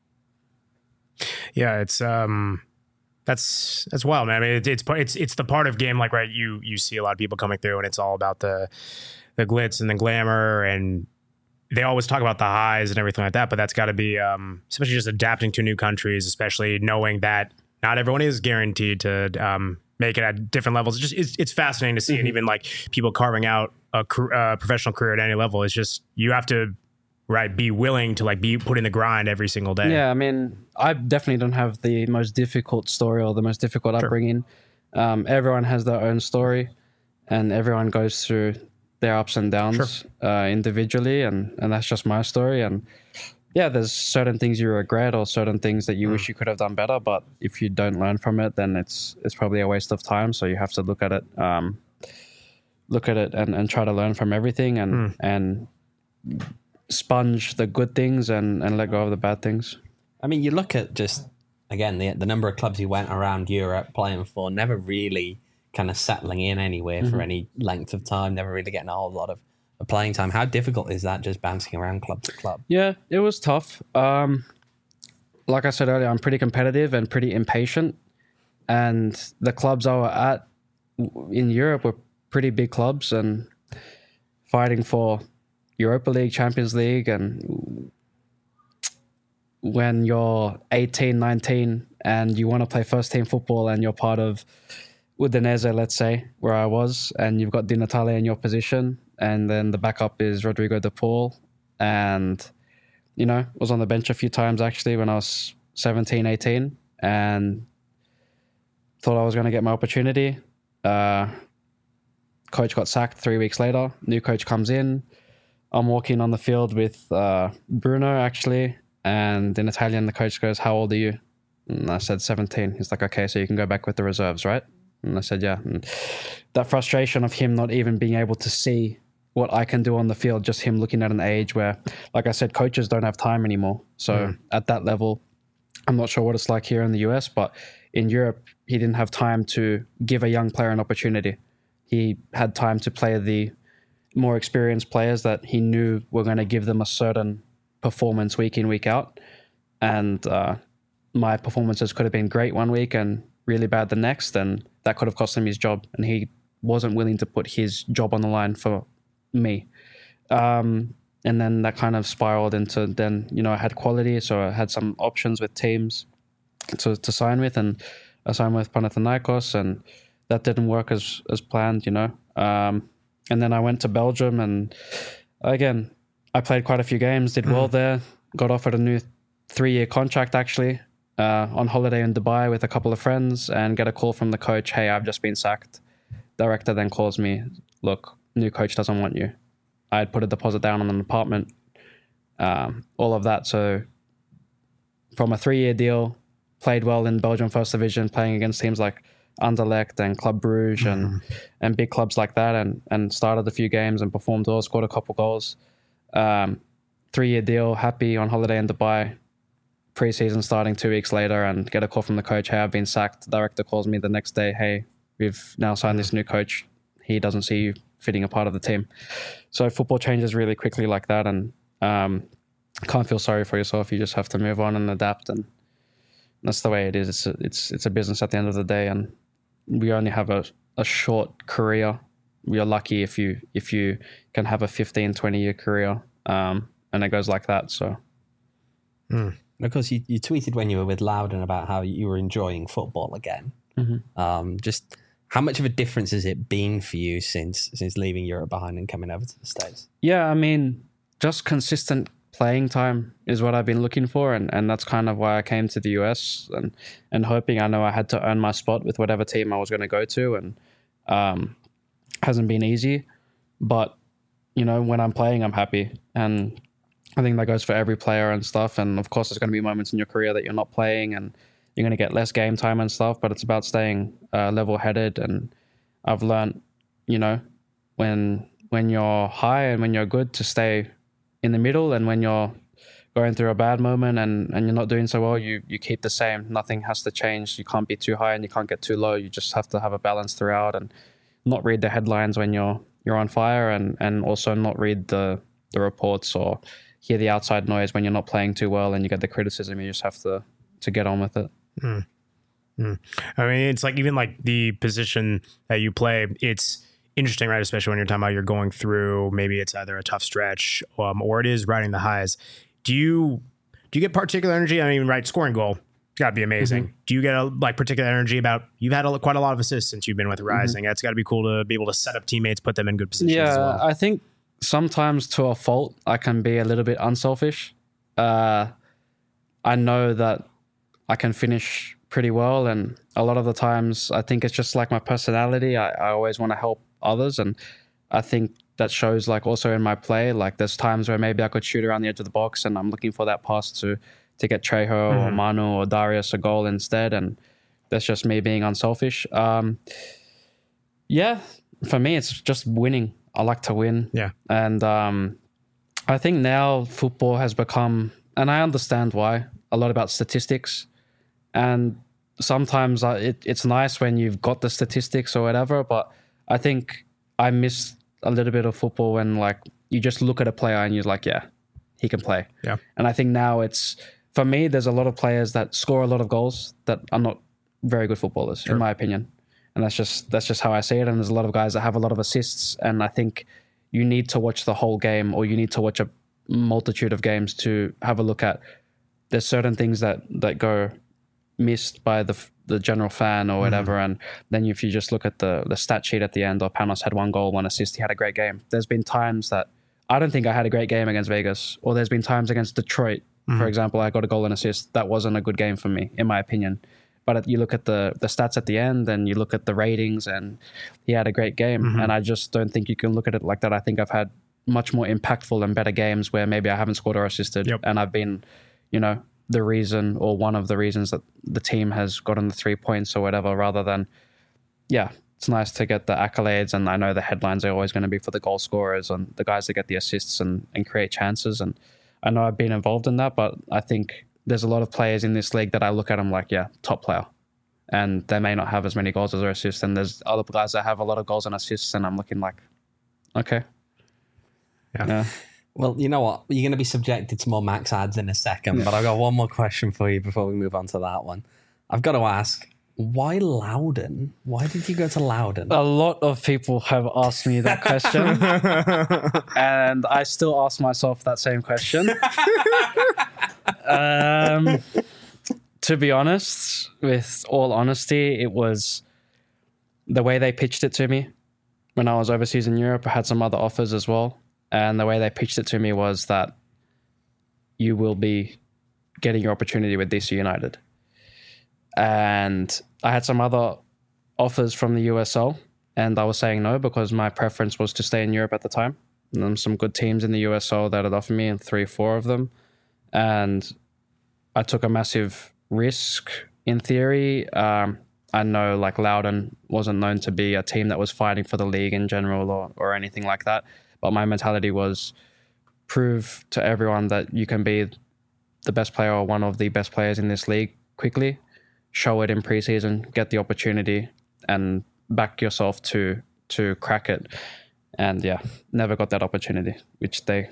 Yeah, it's um, that's that's wild, man. I mean, it, it's it's it's the part of game, like, right? You you see a lot of people coming through, and it's all about the the glitz and the glamour, and they always talk about the highs and everything like that, but that's got to be, um, especially just adapting to new countries, especially knowing that not everyone is guaranteed to um, make it at different levels. It's just it's, it's fascinating to see, mm-hmm. and even like people carving out a uh, professional career at any level. It's just you have to right be willing to like be put in the grind every single day. Yeah, I mean, I definitely don't have the most difficult story or the most difficult sure. upbringing. Um, everyone has their own story, and everyone goes through their ups and downs sure. uh, individually, and and that's just my story. And yeah, there's certain things you regret or certain things that you mm. wish you could have done better, but if you don't learn from it, then it's it's probably a waste of time. So you have to look at it um look at it and, and try to learn from everything, and mm. and sponge the good things and and let go of the bad things. I mean, you look at just again the the number of clubs you went around Europe playing for, never really kind of settling in anywhere mm-hmm. for any length of time, never really getting a whole lot of, of playing time. How difficult is that, just bouncing around club to club? Yeah, it was tough. Um, like I said earlier, I'm pretty competitive and pretty impatient. And the clubs I were at in Europe were pretty big clubs and fighting for Europa League, Champions League. And when you're eighteen, nineteen and you want to play first team football and you're part of Udinese, let's say, where I was, and you've got Di Natale in your position, and then the backup is Rodrigo de Paul, and, you know, was on the bench a few times actually when I was seventeen, eighteen, and thought I was going to get my opportunity. Uh, coach got sacked three weeks later. New coach comes in. I'm walking on the field with uh, Bruno, actually, and in Italian, the coach goes, "How old are you?" And I said, seventeen. He's like, "Okay, so you can go back with the reserves, right?" And I said, yeah. And that frustration of him not even being able to see what I can do on the field, just him looking at an age where, like I said, coaches don't have time anymore. So mm. at that level, I'm not sure what it's like here in the U S, but in Europe, he didn't have time to give a young player an opportunity. He had time to play the more experienced players that he knew were going to give them a certain performance week in, week out. And uh, my performances could have been great one week and really bad the next, and that could have cost him his job, and he wasn't willing to put his job on the line for me. Um, and then that kind of spiraled into then, you know, I had quality, so I had some options with teams to, to sign with, and I signed with Panathinaikos, and that didn't work as as planned, you know. Um, and then I went to Belgium, and again, I played quite a few games, did well there, got offered a new three-year contract actually, Uh, on holiday in Dubai with a couple of friends, and get a call from the coach, "Hey, I've just been sacked." Director then calls me, "Look, new coach doesn't want you." I had put a deposit down on an apartment, um, all of that. So from a three-year deal, played well in Belgium First Division, playing against teams like Anderlecht and Club Brugge mm. and and big clubs like that, and and started a few games and performed well, scored a couple goals. Um, three-year deal, happy, on holiday in Dubai. Preseason starting two weeks later, and get a call from the coach, "Hey, I've been sacked." The director calls me the next day, "Hey, we've now signed this new coach. He doesn't see you fitting a part of the team." So football changes really quickly like that, and um, can't feel sorry for yourself. You just have to move on and adapt, and that's the way it is. It's a, it's it's a business at the end of the day, and we only have a, a short career. We are lucky if you if you can have a fifteen, twenty year career, um, and it goes like that. So. Mm. And of course, you, you tweeted when you were with Loudoun about how you were enjoying football again. Mm-hmm. Um, just how much of a difference has it been for you since since leaving Europe behind and coming over to the States? Yeah, I mean, just consistent playing time is what I've been looking for, and, and that's kind of why I came to the U S and, and hoping. I know I had to earn my spot with whatever team I was going to go to, and um, hasn't been easy. But, you know, when I'm playing, I'm happy, and I think that goes for every player and stuff. And of course, there's going to be moments in your career that you're not playing and you're going to get less game time and stuff, but it's about staying uh, level-headed. And I've learned, you know, when when you're high and when you're good, to stay in the middle, and when you're going through a bad moment and, and you're not doing so well, you you keep the same. Nothing has to change. You can't be too high and you can't get too low. You just have to have a balance throughout, and not read the headlines when you're you're on fire, and, and also not read the, the reports or hear the outside noise when you're not playing too well and you get the criticism. You just have to to get on with it. Mm. Mm. I mean, it's like even like the position that you play, it's interesting, right? Especially when you're talking about you're going through, maybe it's either a tough stretch um, or it is riding the highs. Do you do you get particular energy? I mean, right, scoring goal, it's got to be amazing. Mm-hmm. Do you get a, like particular energy about, you've had a, quite a lot of assists since you've been with Rising. Mm-hmm. It's got to be cool to be able to set up teammates, put them in good positions yeah, as well. I think sometimes to a fault, I can be a little bit unselfish. Uh, I know that I can finish pretty well, and a lot of the times I think it's just like my personality. I, I always want to help others, and I think that shows like also in my play. Like there's times where maybe I could shoot around the edge of the box and I'm looking for that pass to to get Trejo mm-hmm. or Manu or Darius a goal instead, and that's just me being unselfish. Um, yeah, for me it's just winning. I like to win. Yeah, and um, I think now football has become, and I understand why, a lot about statistics, and sometimes I, it, it's nice when you've got the statistics or whatever, but I think I miss a little bit of football when like you just look at a player and you're like, yeah, he can play. Yeah. And I think now it's, for me, there's a lot of players that score a lot of goals that are not very good footballers, sure. in my opinion. And that's just that's just how I see it. And there's a lot of guys that have a lot of assists, and I think you need to watch the whole game, or you need to watch a multitude of games to have a look at. There's certain things that that go missed by the the general fan or whatever, mm. and then if you just look at the the stat sheet at the end, or Panos had one goal, one assist, he had a great game. There's been times that I don't think I had a great game against Vegas, or there's been times against Detroit, mm. for example, I got a goal and assist. That wasn't a good game for me, in my opinion. But you look at the the stats at the end, and you look at the ratings, and he had a great game. Mm-hmm. And I just don't think you can look at it like that. I think I've had much more impactful and better games where maybe I haven't scored or assisted, yep. and I've been, you know, the reason or one of the reasons that the team has gotten the three points or whatever, rather than, yeah, it's nice to get the accolades. And I know the headlines are always going to be for the goal scorers and the guys that get the assists and, and create chances. And I know I've been involved in that, but I think there's a lot of players in this league that I look at them like, yeah, top player. And they may not have as many goals as their assists. And there's other guys that have a lot of goals and assists, and I'm looking like, okay. Yeah. yeah. Well, you know what? You're going to be subjected to more max ads in a second, yeah. but I've got one more question for you before we move on to that one. I've got to ask, why Loudoun? Why did you go to Loudoun? A lot of people have asked me that question. And I still ask myself that same question. um, to be honest, with all honesty, it was the way they pitched it to me. When I was overseas in Europe, I had some other offers as well. And the way they pitched it to me was that you will be getting your opportunity with D C United. And I had some other offers from the U S L, and I was saying no because my preference was to stay in Europe at the time. And there were some good teams in the U S L that had offered me, and three, four of them. And I took a massive risk in theory. Um, I know like Loudoun wasn't known to be a team that was fighting for the league in general or, or anything like that. But my mentality was prove to everyone that you can be the best player or one of the best players in this league quickly. Show it in preseason, get the opportunity, and back yourself to to crack it. And yeah, never got that opportunity, which they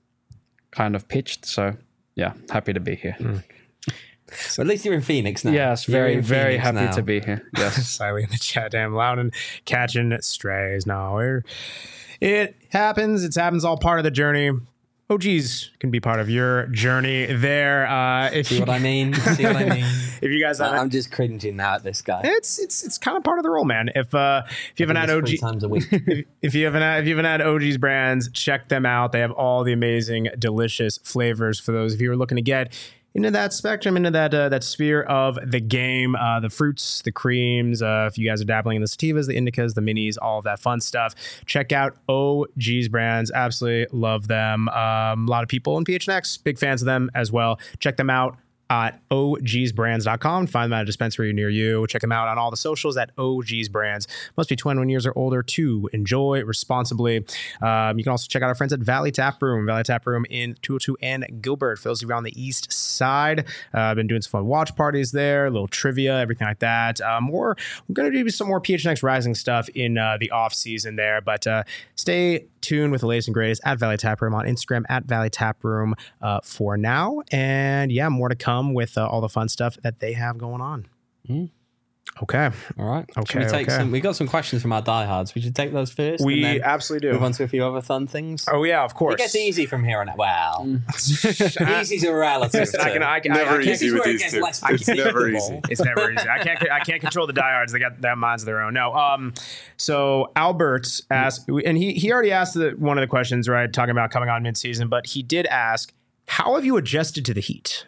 kind of pitched. So yeah, happy to be here. Mm. So at least you're in Phoenix now. Yes, very, very happy now. to be here. Yes. Slightly in the chat, damn Loudoun catching strays. No, we're, it happens. It happens all part of the journey. O Gs can be part of your journey there. Uh, if See you, what I mean? See what I mean? If you guys, I'm just cringing now at this guy. It's it's it's kind of part of the role, man. If uh if you haven't had O G times a week, if, if you haven't had, if you haven't had O G's brands, check them out. They have all the amazing, delicious flavors for those of you who are looking to get into that spectrum, into that uh, that sphere of the game, uh, the fruits, the creams. Uh, if you guys are dabbling in the sativas, the indicas, the minis, all of that fun stuff, check out O G's brands. Absolutely love them. Um, a lot of people in P H N X, big fans of them as well. Check them out at O Gs brands dot com. Find them at a dispensary near you. Check them out on all the socials at O Gs Brands. Must be twenty-one years or older to enjoy responsibly. Um, you can also check out our friends at Valley Tap Room. Valley Tap Room in two oh two and Gilbert. For those of you on the east side, uh, I've been doing some fun watch parties there, a little trivia, everything like that. Um, or we're going to do some more P H N X Rising stuff in uh, the off season there. But uh, stay tuned with the latest and greatest at Valley Tap Room on Instagram at Valley Tap Room uh, for now. And yeah, more to come with uh, all the fun stuff that they have going on. Mm. Okay. All right. Okay, Should we take okay. some? We got some questions from our diehards. We should take those first. We and then absolutely do. move on to a few other fun things. Oh yeah, of course. It gets easy from here on out. Well, easy's a relative. Listen, I can, I can, Never I, I can't, easy with these two. It's never easy. It's never easy. I can't. I can't control the diehards. They got their minds of their own. No. Um. So Albert asked, and he he already asked the, one of the questions, right? Talking about coming on mid-season, but he did ask, "How have you adjusted to the heat?"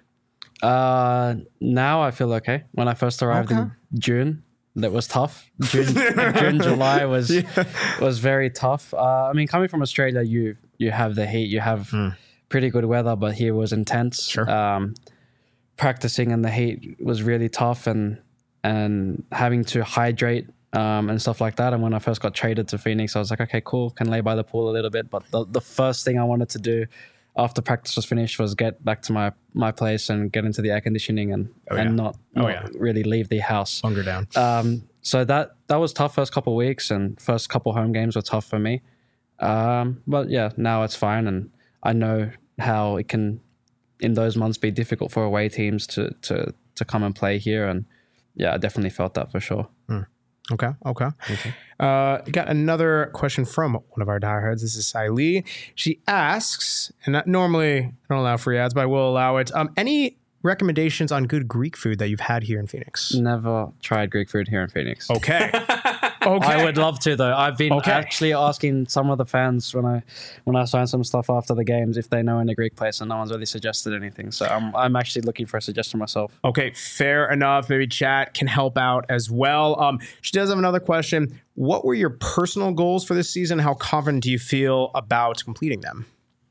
Uh, now I feel okay. When I first arrived Okay. in June, that was tough. June, June, July was was very tough. Uh, I mean, coming from Australia, you you have the heat, you have pretty good weather, but here was intense. Sure. Um, practicing in the heat was really tough, and and having to hydrate um, and stuff like that. And when I first got traded to Phoenix, I was like, okay, cool, can lay by the pool a little bit. But the, the first thing I wanted to do after practice was finished was get back to my, my place and get into the air conditioning and, Oh, and yeah. not, Oh, not yeah. really leave the house. Hunger down. Um, so that that was tough first couple of weeks, and first couple home games were tough for me. Um, but yeah, now it's fine, and I know how it can in those months be difficult for away teams to to to come and play here, and yeah, I definitely felt that for sure. Okay. Okay. Uh, got another question from one of our diehards. This is Sai Lee. She asks, and not, normally I don't allow free ads, but I will allow it. Um, any recommendations on good Greek food that you've had here in Phoenix? Never tried Greek food here in Phoenix. Okay. Okay. I would love to though. I've been Okay. actually asking some of the fans when I when I sign some stuff after the games if they know any Greek place, and no one's really suggested anything. So I'm I'm actually looking for a suggestion myself. Okay, fair enough. Maybe chat can help out as well. Um, she does have another question. What were your personal goals for this season? How confident do you feel about completing them?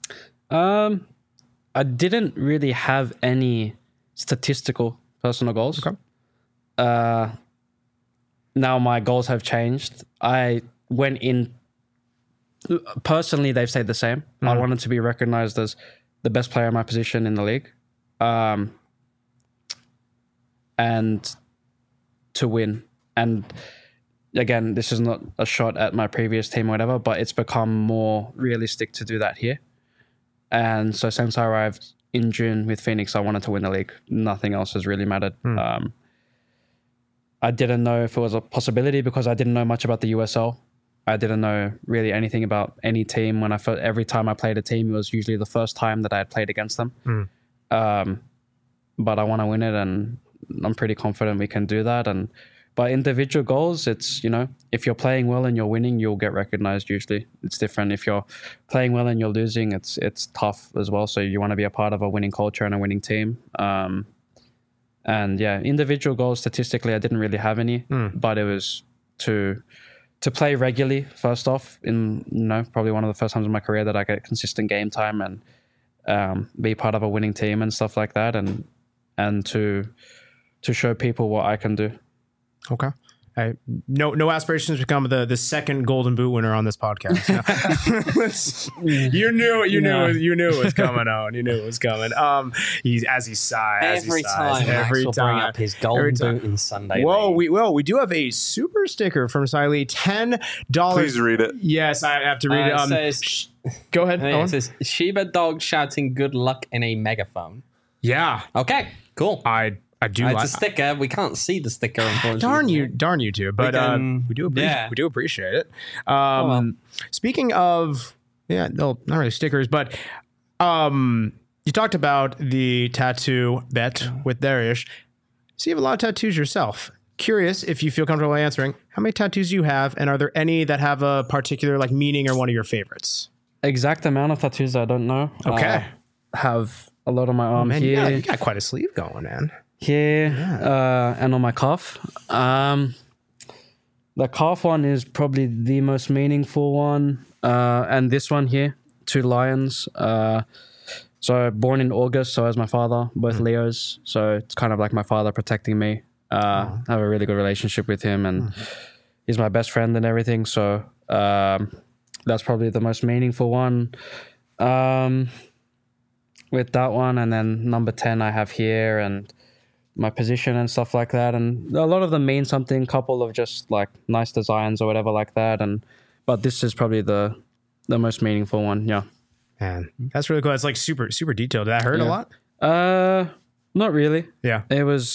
Um, I didn't really have any statistical personal goals. Okay. Uh, now my goals have changed. I went in personally. They've stayed the same. I wanted to be recognized as the best player in my position in the league, um, and to win. And again, this is not a shot at my previous team or whatever, but it's become more realistic to do that here. And so since I arrived in June with Phoenix, I wanted to win the league. Nothing else has really mattered. Um, I didn't know if it was a possibility because I didn't know much about the U S L. I didn't know really anything about any team. When I fir- every time I played a team, it was usually the first time that I had played against them. Um, but I want to win it, and I'm pretty confident we can do that. And by individual goals, it's, you know, if you're playing well and you're winning, you'll get recognized. Usually, it's different. If you're playing well and you're losing, it's it's tough as well. So you want to be a part of a winning culture and a winning team. Um, and yeah, individual goals statistically, I didn't really have any, but it was to to play regularly. First off, in you know probably one of the first times in my career that I get consistent game time and um, be part of a winning team and stuff like that, and and to to show people what I can do. Okay. I, no, no aspirations to become the, the second Golden Boot winner on this podcast. No. you knew it. You No. knew it. You knew it was coming on. You knew it was coming. Um, he's as he sighs. as he Every sighs, time, Max every will time. bring up his Every golden time. boot in Sunday. Whoa, League. we well, we do have a super sticker from Siley. Ten dollars. Please read it. Yes, I have to read Uh, it. Um, it says, sh- go ahead. yeah, Owen. it says Sheba dog shouting good luck in a megaphone. Yeah, Okay, cool. I I do. Uh, like. it's a sticker. We can't see the sticker, unfortunately. Darn you, darn you two. But can- uh, we do appreciate yeah. we do appreciate it. Um, Oh, well. Speaking of, yeah, no, not really stickers, but um, you talked about the tattoo bet with Darius. So you have a lot of tattoos yourself. Curious if you feel comfortable answering how many tattoos you have, and are there any that have a particular like meaning or one of your favorites? Exact amount of tattoos I don't know. Okay. Uh, have a lot on my arm Man, here. yeah, you got quite a sleeve going, man. here uh, and on my calf. Um, the calf one is probably the most meaningful one, uh, and this one here, two lions. Uh, so born in August, so as my father, both Leos. So it's kind of like my father protecting me. Uh, I have a really good relationship with him, and he's my best friend and everything. So um, that's probably the most meaningful one. Um, with that one, and then number ten I have here, and my position and stuff like that, and a lot of them mean something. Couple of just like nice designs or whatever like that, and but this is probably the the most meaningful one. Yeah. Man, that's really cool. It's like super super detailed. Did that hurt a Yeah. lot? Uh, not really. Yeah. It was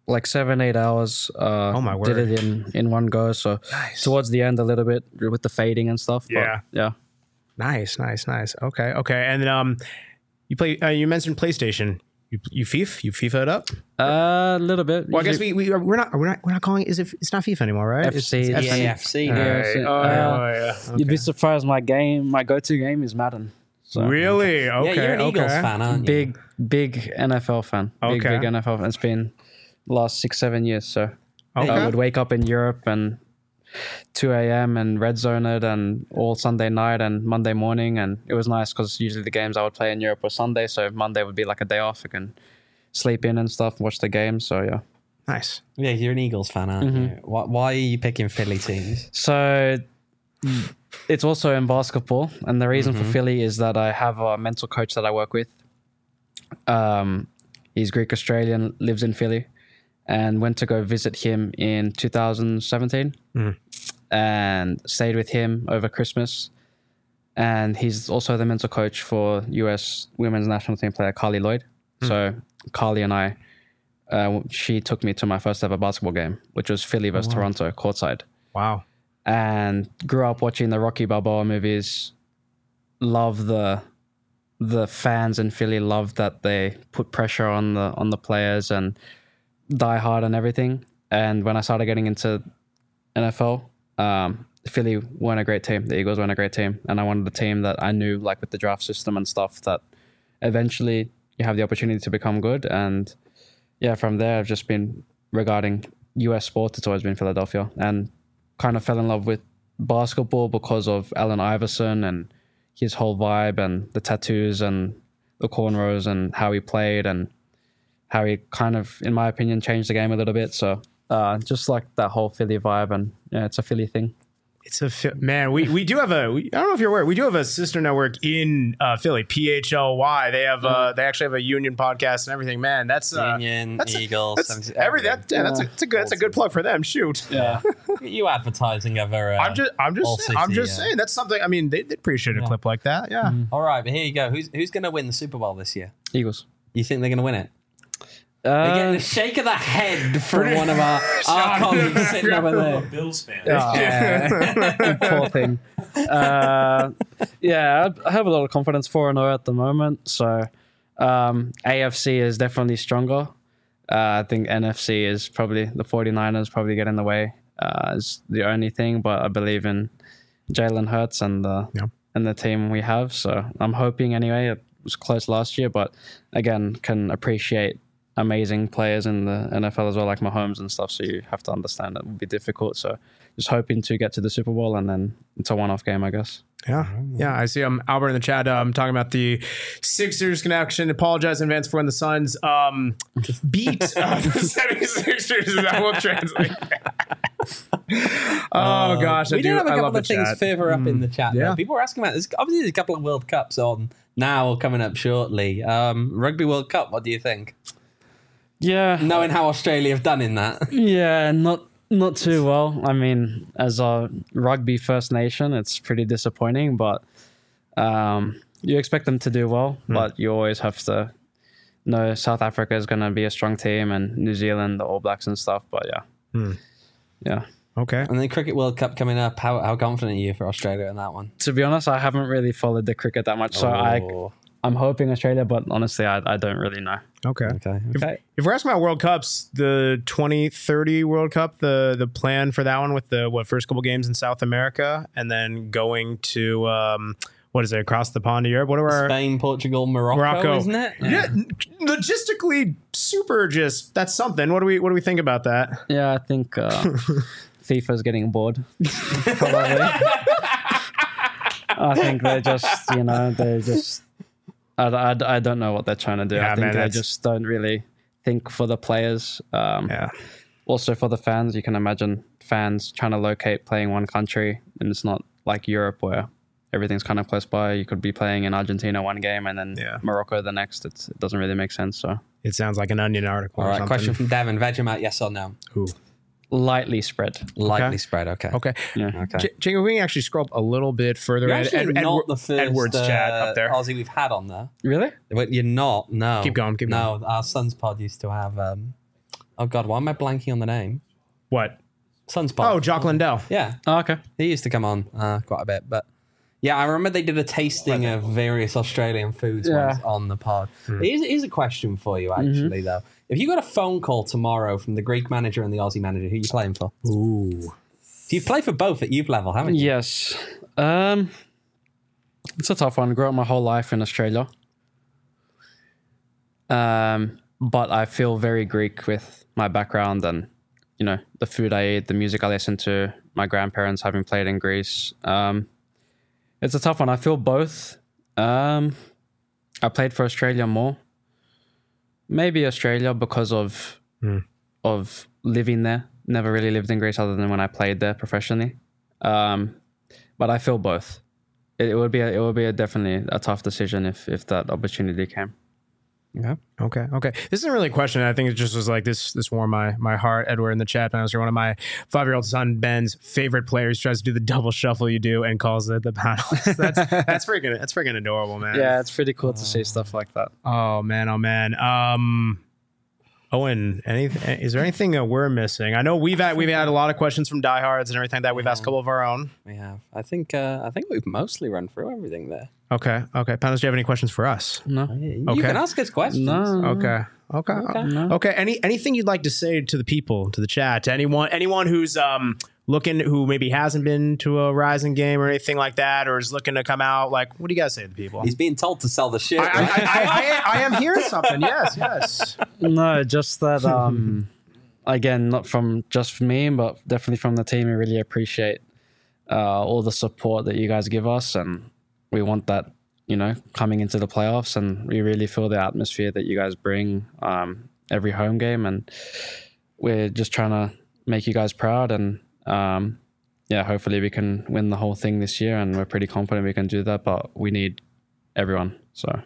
like seven, eight hours. Uh, Oh, my Did word. it in, in one go. So Nice. towards the end a little bit with the fading and stuff. But Yeah. yeah. Nice, nice, nice. Okay, okay. And then um, you play. Uh, you mentioned PlayStation. You you FIFA. You FIFA it up. A little bit. Well, I guess Usually we we are, we're not we're not we're not calling it. Is it? It's not FIFA anymore, right? F C. It's, Yeah, it's E A F C. All Yeah, right. so, Oh, uh, yeah, oh, yeah. You'd be Okay. surprised. My game, my go-to game is Madden. So Really? Okay. Yeah, you're an okay. Eagles fan, aren't you? big, big N F L fan. Big, Okay. big N F L fan. It's been the last six, seven years. So Okay. I would wake up in Europe and two a.m. and red zone it and all Sunday night and Monday morning. And it was nice because usually the games I would play in Europe were Sunday. So Monday would be like a day off. I can sleep in and stuff, watch the game. So yeah. Nice. Yeah, you're an Eagles fan, aren't Mm-hmm. you? Why, why are you picking Philly teams? So it's also in basketball. And the reason for Philly is that I have a mental coach that I work with. Um, he's Greek Australian, lives in Philly, and went to go visit him in two thousand seventeen and stayed with him over Christmas. And he's also the mental coach for U S women's national team player Carly Lloyd. So Carly and I, uh, she took me to my first ever basketball game, which was Philly versus Toronto courtside. Wow. And grew up watching the Rocky Balboa movies. Love the the fans in Philly. Love that they put pressure on the on the players and die hard and everything. And when I started getting into N F L, um, Philly weren't a great team. The Eagles weren't a great team, and I wanted a team that I knew, like with the draft system and stuff, that eventually you have the opportunity to become good. And yeah, from there I've just been regarding U S sports. It's always been Philadelphia, and kind of fell in love with basketball because of Allen Iverson and his whole vibe and the tattoos and the cornrows and how he played and how he kind of, in my opinion, changed the game a little bit. So uh, just like that whole Philly vibe, and yeah, it's a Philly thing. It's a Phi- man. We we do have a. We, I don't know if you're aware. We do have a sister network in uh, Philly. P H L Y. They have. Uh, they actually have a union podcast and everything. Man, that's uh, Union, that's a- Eagles, That's seventy- every that. everything. Yeah, that's a, that's a good. That's a good plug for them. Shoot. Yeah. You advertising ever? Uh, I'm just. I'm All just. Saying, I'm city, just yeah. saying. That's something. I mean, they they appreciate a Yeah. clip like that. Yeah. All right, but here you go. Who's who's going to win the Super Bowl this year? Eagles. You think they're going to win it? We're getting Uh, a shake of the head from one of our, our colleagues sitting over there. Bills fan. Yeah. Poor thing. Uh, yeah, I have a lot of confidence four and oh at the moment. So um, A F C is definitely stronger. Uh, I think N F C is probably the 49ers probably get in the way. Uh, is the only thing, but I believe in Jalen Hurts and the Yeah. and the team we have. So I'm hoping anyway. It was close last year, but again, can appreciate amazing players in the N F L as well, like Mahomes and stuff. So you have to understand it would be difficult. So just hoping to get to the Super Bowl, and then it's a one-off game, I guess. Yeah, yeah. I see. Um, Albert in the chat. Um, talking about the Sixers connection. Apologize in advance for when the Suns um beat uh, the seventy-sixers. That will translate. oh gosh, I we do. do have a I couple love the of things chat. further up in the chat. yeah. though. People were asking about this. Obviously, there's a couple of World Cups on now or coming up shortly. Um, Rugby World Cup. What do you think? Yeah, Knowing how Australia have done in that. yeah, not not too well. I mean, as a rugby First Nation, it's pretty disappointing, but um, you expect them to do well, but you always have to know South Africa is going to be a strong team, and New Zealand, the All Blacks and stuff. But yeah, yeah. Okay. And then Cricket World Cup coming up. How how confident are you for Australia in that one? To be honest, I haven't really followed the cricket that much, so I Oh, I'm hoping Australia, but honestly, I I don't really know. Okay. okay. Okay. If we're asking about World Cups, the twenty thirty World Cup, the the plan for that one with the what first couple games in South America, and then going to um, what is it across the pond to Europe? What are our Spain, Portugal, Morocco, Morocco. isn't it? Yeah, n- logistically super. Just that's something. What do we what do we think about that? Yeah, I think uh, FIFA's getting bored. Probably. I think they're just, you know, they're just. I, I, I don't know what they're trying to do. Yeah, I think man, they that's- just don't really think for the players. Um, Yeah. Also for the fans, you can imagine fans trying to locate playing one country, and it's not like Europe where everything's kind of close by. You could be playing in Argentina one game and then Yeah. Morocco the next. It's, it doesn't really make sense. So It sounds like an Onion article. All or right. something. Question from Devin: Vegemite, yes or no? Ooh. lightly spread. Lightly Okay. spread. Okay. Okay. Yeah. Okay. J- Jingle, we can actually scroll up a little bit further. You're Ed- actually Ed- not Edward- the first Edward's uh, chat up there. Aussie we've had on there. Really? But you're not. No. Keep going, keep no, our son's pod used to have um, Oh God, why am I blanking on the name? What? Sunspot. Oh, Jock Lindell. Yeah. Oh, okay. He used to come on uh, quite a bit, but yeah, I remember they did a tasting of various Australian foods Yeah. once on the pod. Here's, here's a question for you, actually, though. If you got a phone call tomorrow from the Greek manager and the Aussie manager, who are you playing for? Ooh. You've played for both at youth level, haven't you? Yes. Um, it's a tough one. I grew up my whole life in Australia. Um, but I feel very Greek with my background and, you know, the food I eat, the music I listen to, my grandparents having played in Greece. Um, it's a tough one. I feel both. Um, I played for Australia more. Maybe Australia because of Mm. of living there. Never really lived in Greece other than when I played there professionally. Um, but I feel both. It, it would be a, it would be a definitely a tough decision if if that opportunity came. Yeah. Okay. Okay. This isn't really a question. I think it just was like this. This warmed my my heart. Edward in the chat. I was one of my five year old son Ben's favorite players. Tries to do the double shuffle you do and calls it the paddle. That's that's freaking that's freaking adorable, man. Yeah, it's pretty cool to see stuff like that. Oh man. Oh man. Um. Owen, anything? Is there anything uh, we're missing? I know we've had we've had a lot of questions from diehards and everything like that. We've asked a couple of our own. We have. I think uh, I think we've mostly run through everything there. Okay. Okay. Panos, do you have any questions for us? No, You Okay. can ask us questions. no. Okay. Okay. Okay. No. Okay. Any anything you'd like to say to the people, to the chat, to anyone anyone who's um looking, who maybe hasn't been to a Rising game or anything like that, or is looking to come out? Like, what do you guys say to the people? He's being told to sell the shit. I, I, right? I, I, I am hearing something. Yes. Yes. No, just that. Um, again, not from just me, but definitely from the team. We really appreciate uh, all the support that you guys give us, and we want that. You know, coming into the playoffs, and we really feel the atmosphere that you guys bring um, every home game, and we're just trying to make you guys proud, and um, yeah, hopefully we can win the whole thing this year, and we're pretty confident we can do that, but we need everyone. So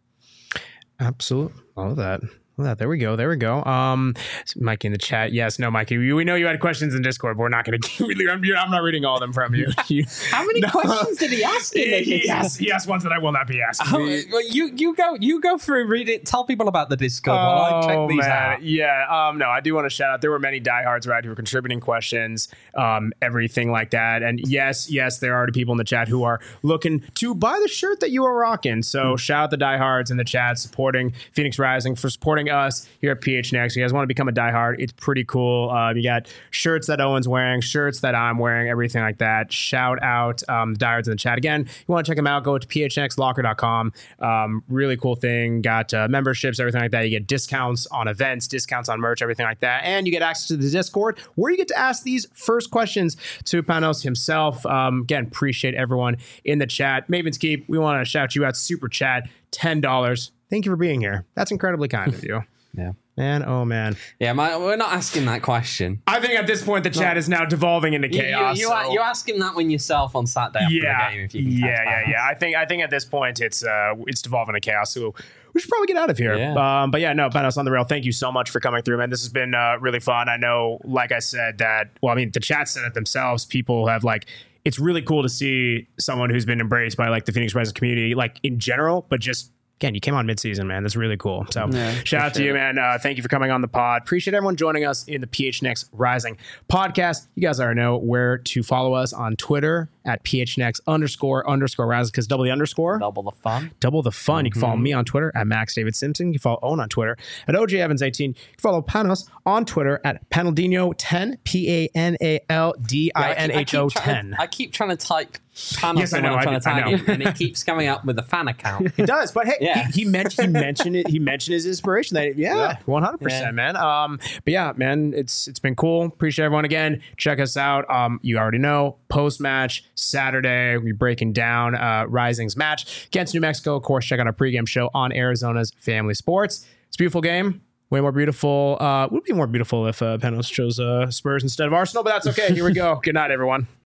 Absolutely. All of that. All that. There we go. There we go. Um, Mikey in the chat. Yes. No, Mikey. We, we know you had questions in Discord, but we're not going to. I'm, I'm not reading all of them from you. you How many No. questions did he ask? In he, there? he, asked, he asked ones that I will not be asking. Oh, We- well, you you go you go through, read it, tell people about the Discord while I check Oh, these man. out. Yeah. Um, no, I do want to shout out. There were many diehards right who were contributing questions, um, everything like that. And yes, yes, there are people in the chat who are looking to buy the shirt that you are rocking. So shout out the diehards in the chat supporting Phoenix Rising, for supporting us here at P H Next. You guys want to become a diehard? It's pretty cool. Uh, you got shirts that Owen's wearing, shirts that I'm wearing, everything like that. Shout out um, the diehards in the chat. Again, you want to check them out, go to p h x locker dot com. Um, really cool thing. Got uh, memberships, everything like that. You get discounts on events, discounts on merch, everything like that. And you get access to the Discord where you get to ask these first questions to Panos himself. Um, again, appreciate everyone in the chat. Maven's Keep, we want to shout you out. Super chat, ten dollars. Thank you for being here. That's incredibly kind of you. Yeah. Man, oh man. Yeah, my, we're not asking that question. I think at this point the chat is now devolving into You, you, chaos. you, so- you ask him that when yourself on Saturday after yeah, the game if you can yeah, catch yeah, that. yeah. I think I think at this point it's uh it's devolving to chaos. So we should probably get out of here. Yeah. Um, but yeah, no, Panos on the rail. Thank you so much for coming through, man. This has been uh, really fun. I know, like I said, that well, I mean, the chat said it themselves. People have like. It's really cool to see someone who's been embraced by like the Phoenix Rising community, like in general, but just. Again, you came on mid-season, man. That's really cool. So Yeah, shout out to you, man. Uh, thank you for coming on the pod. Appreciate everyone joining us in the P H Next Rising podcast. You guys already know where to follow us on Twitter at PHNext underscore underscore Rising, because double the underscore. Double the fun. Double the fun. You can follow me on Twitter at Max David Simpson. You can follow Owen on Twitter at O J Evans eighteen. You can follow Panos on Twitter at Panaldino ten, P A N A L D I N H O ten. I keep trying to type Panos Yes, I when know, I'm I trying do- to I tag know. him, and it keeps coming up with a fan account. It does, but hey, Yeah. he, he, meant, he mentioned it. He mentioned his inspiration. That yeah, one hundred Yeah. percent, man. Um, but yeah, man, it's it's been cool. Appreciate everyone again. Check us out. Um, you already know post match Saturday. We're breaking down uh, Rising's match against New Mexico. Of course, check out our pregame show on Arizona's Family Sports. It's a beautiful game. Way more beautiful. Uh, would be more beautiful if uh, Panos chose uh, Spurs instead of Arsenal, but that's okay. Here we go. Good night, everyone.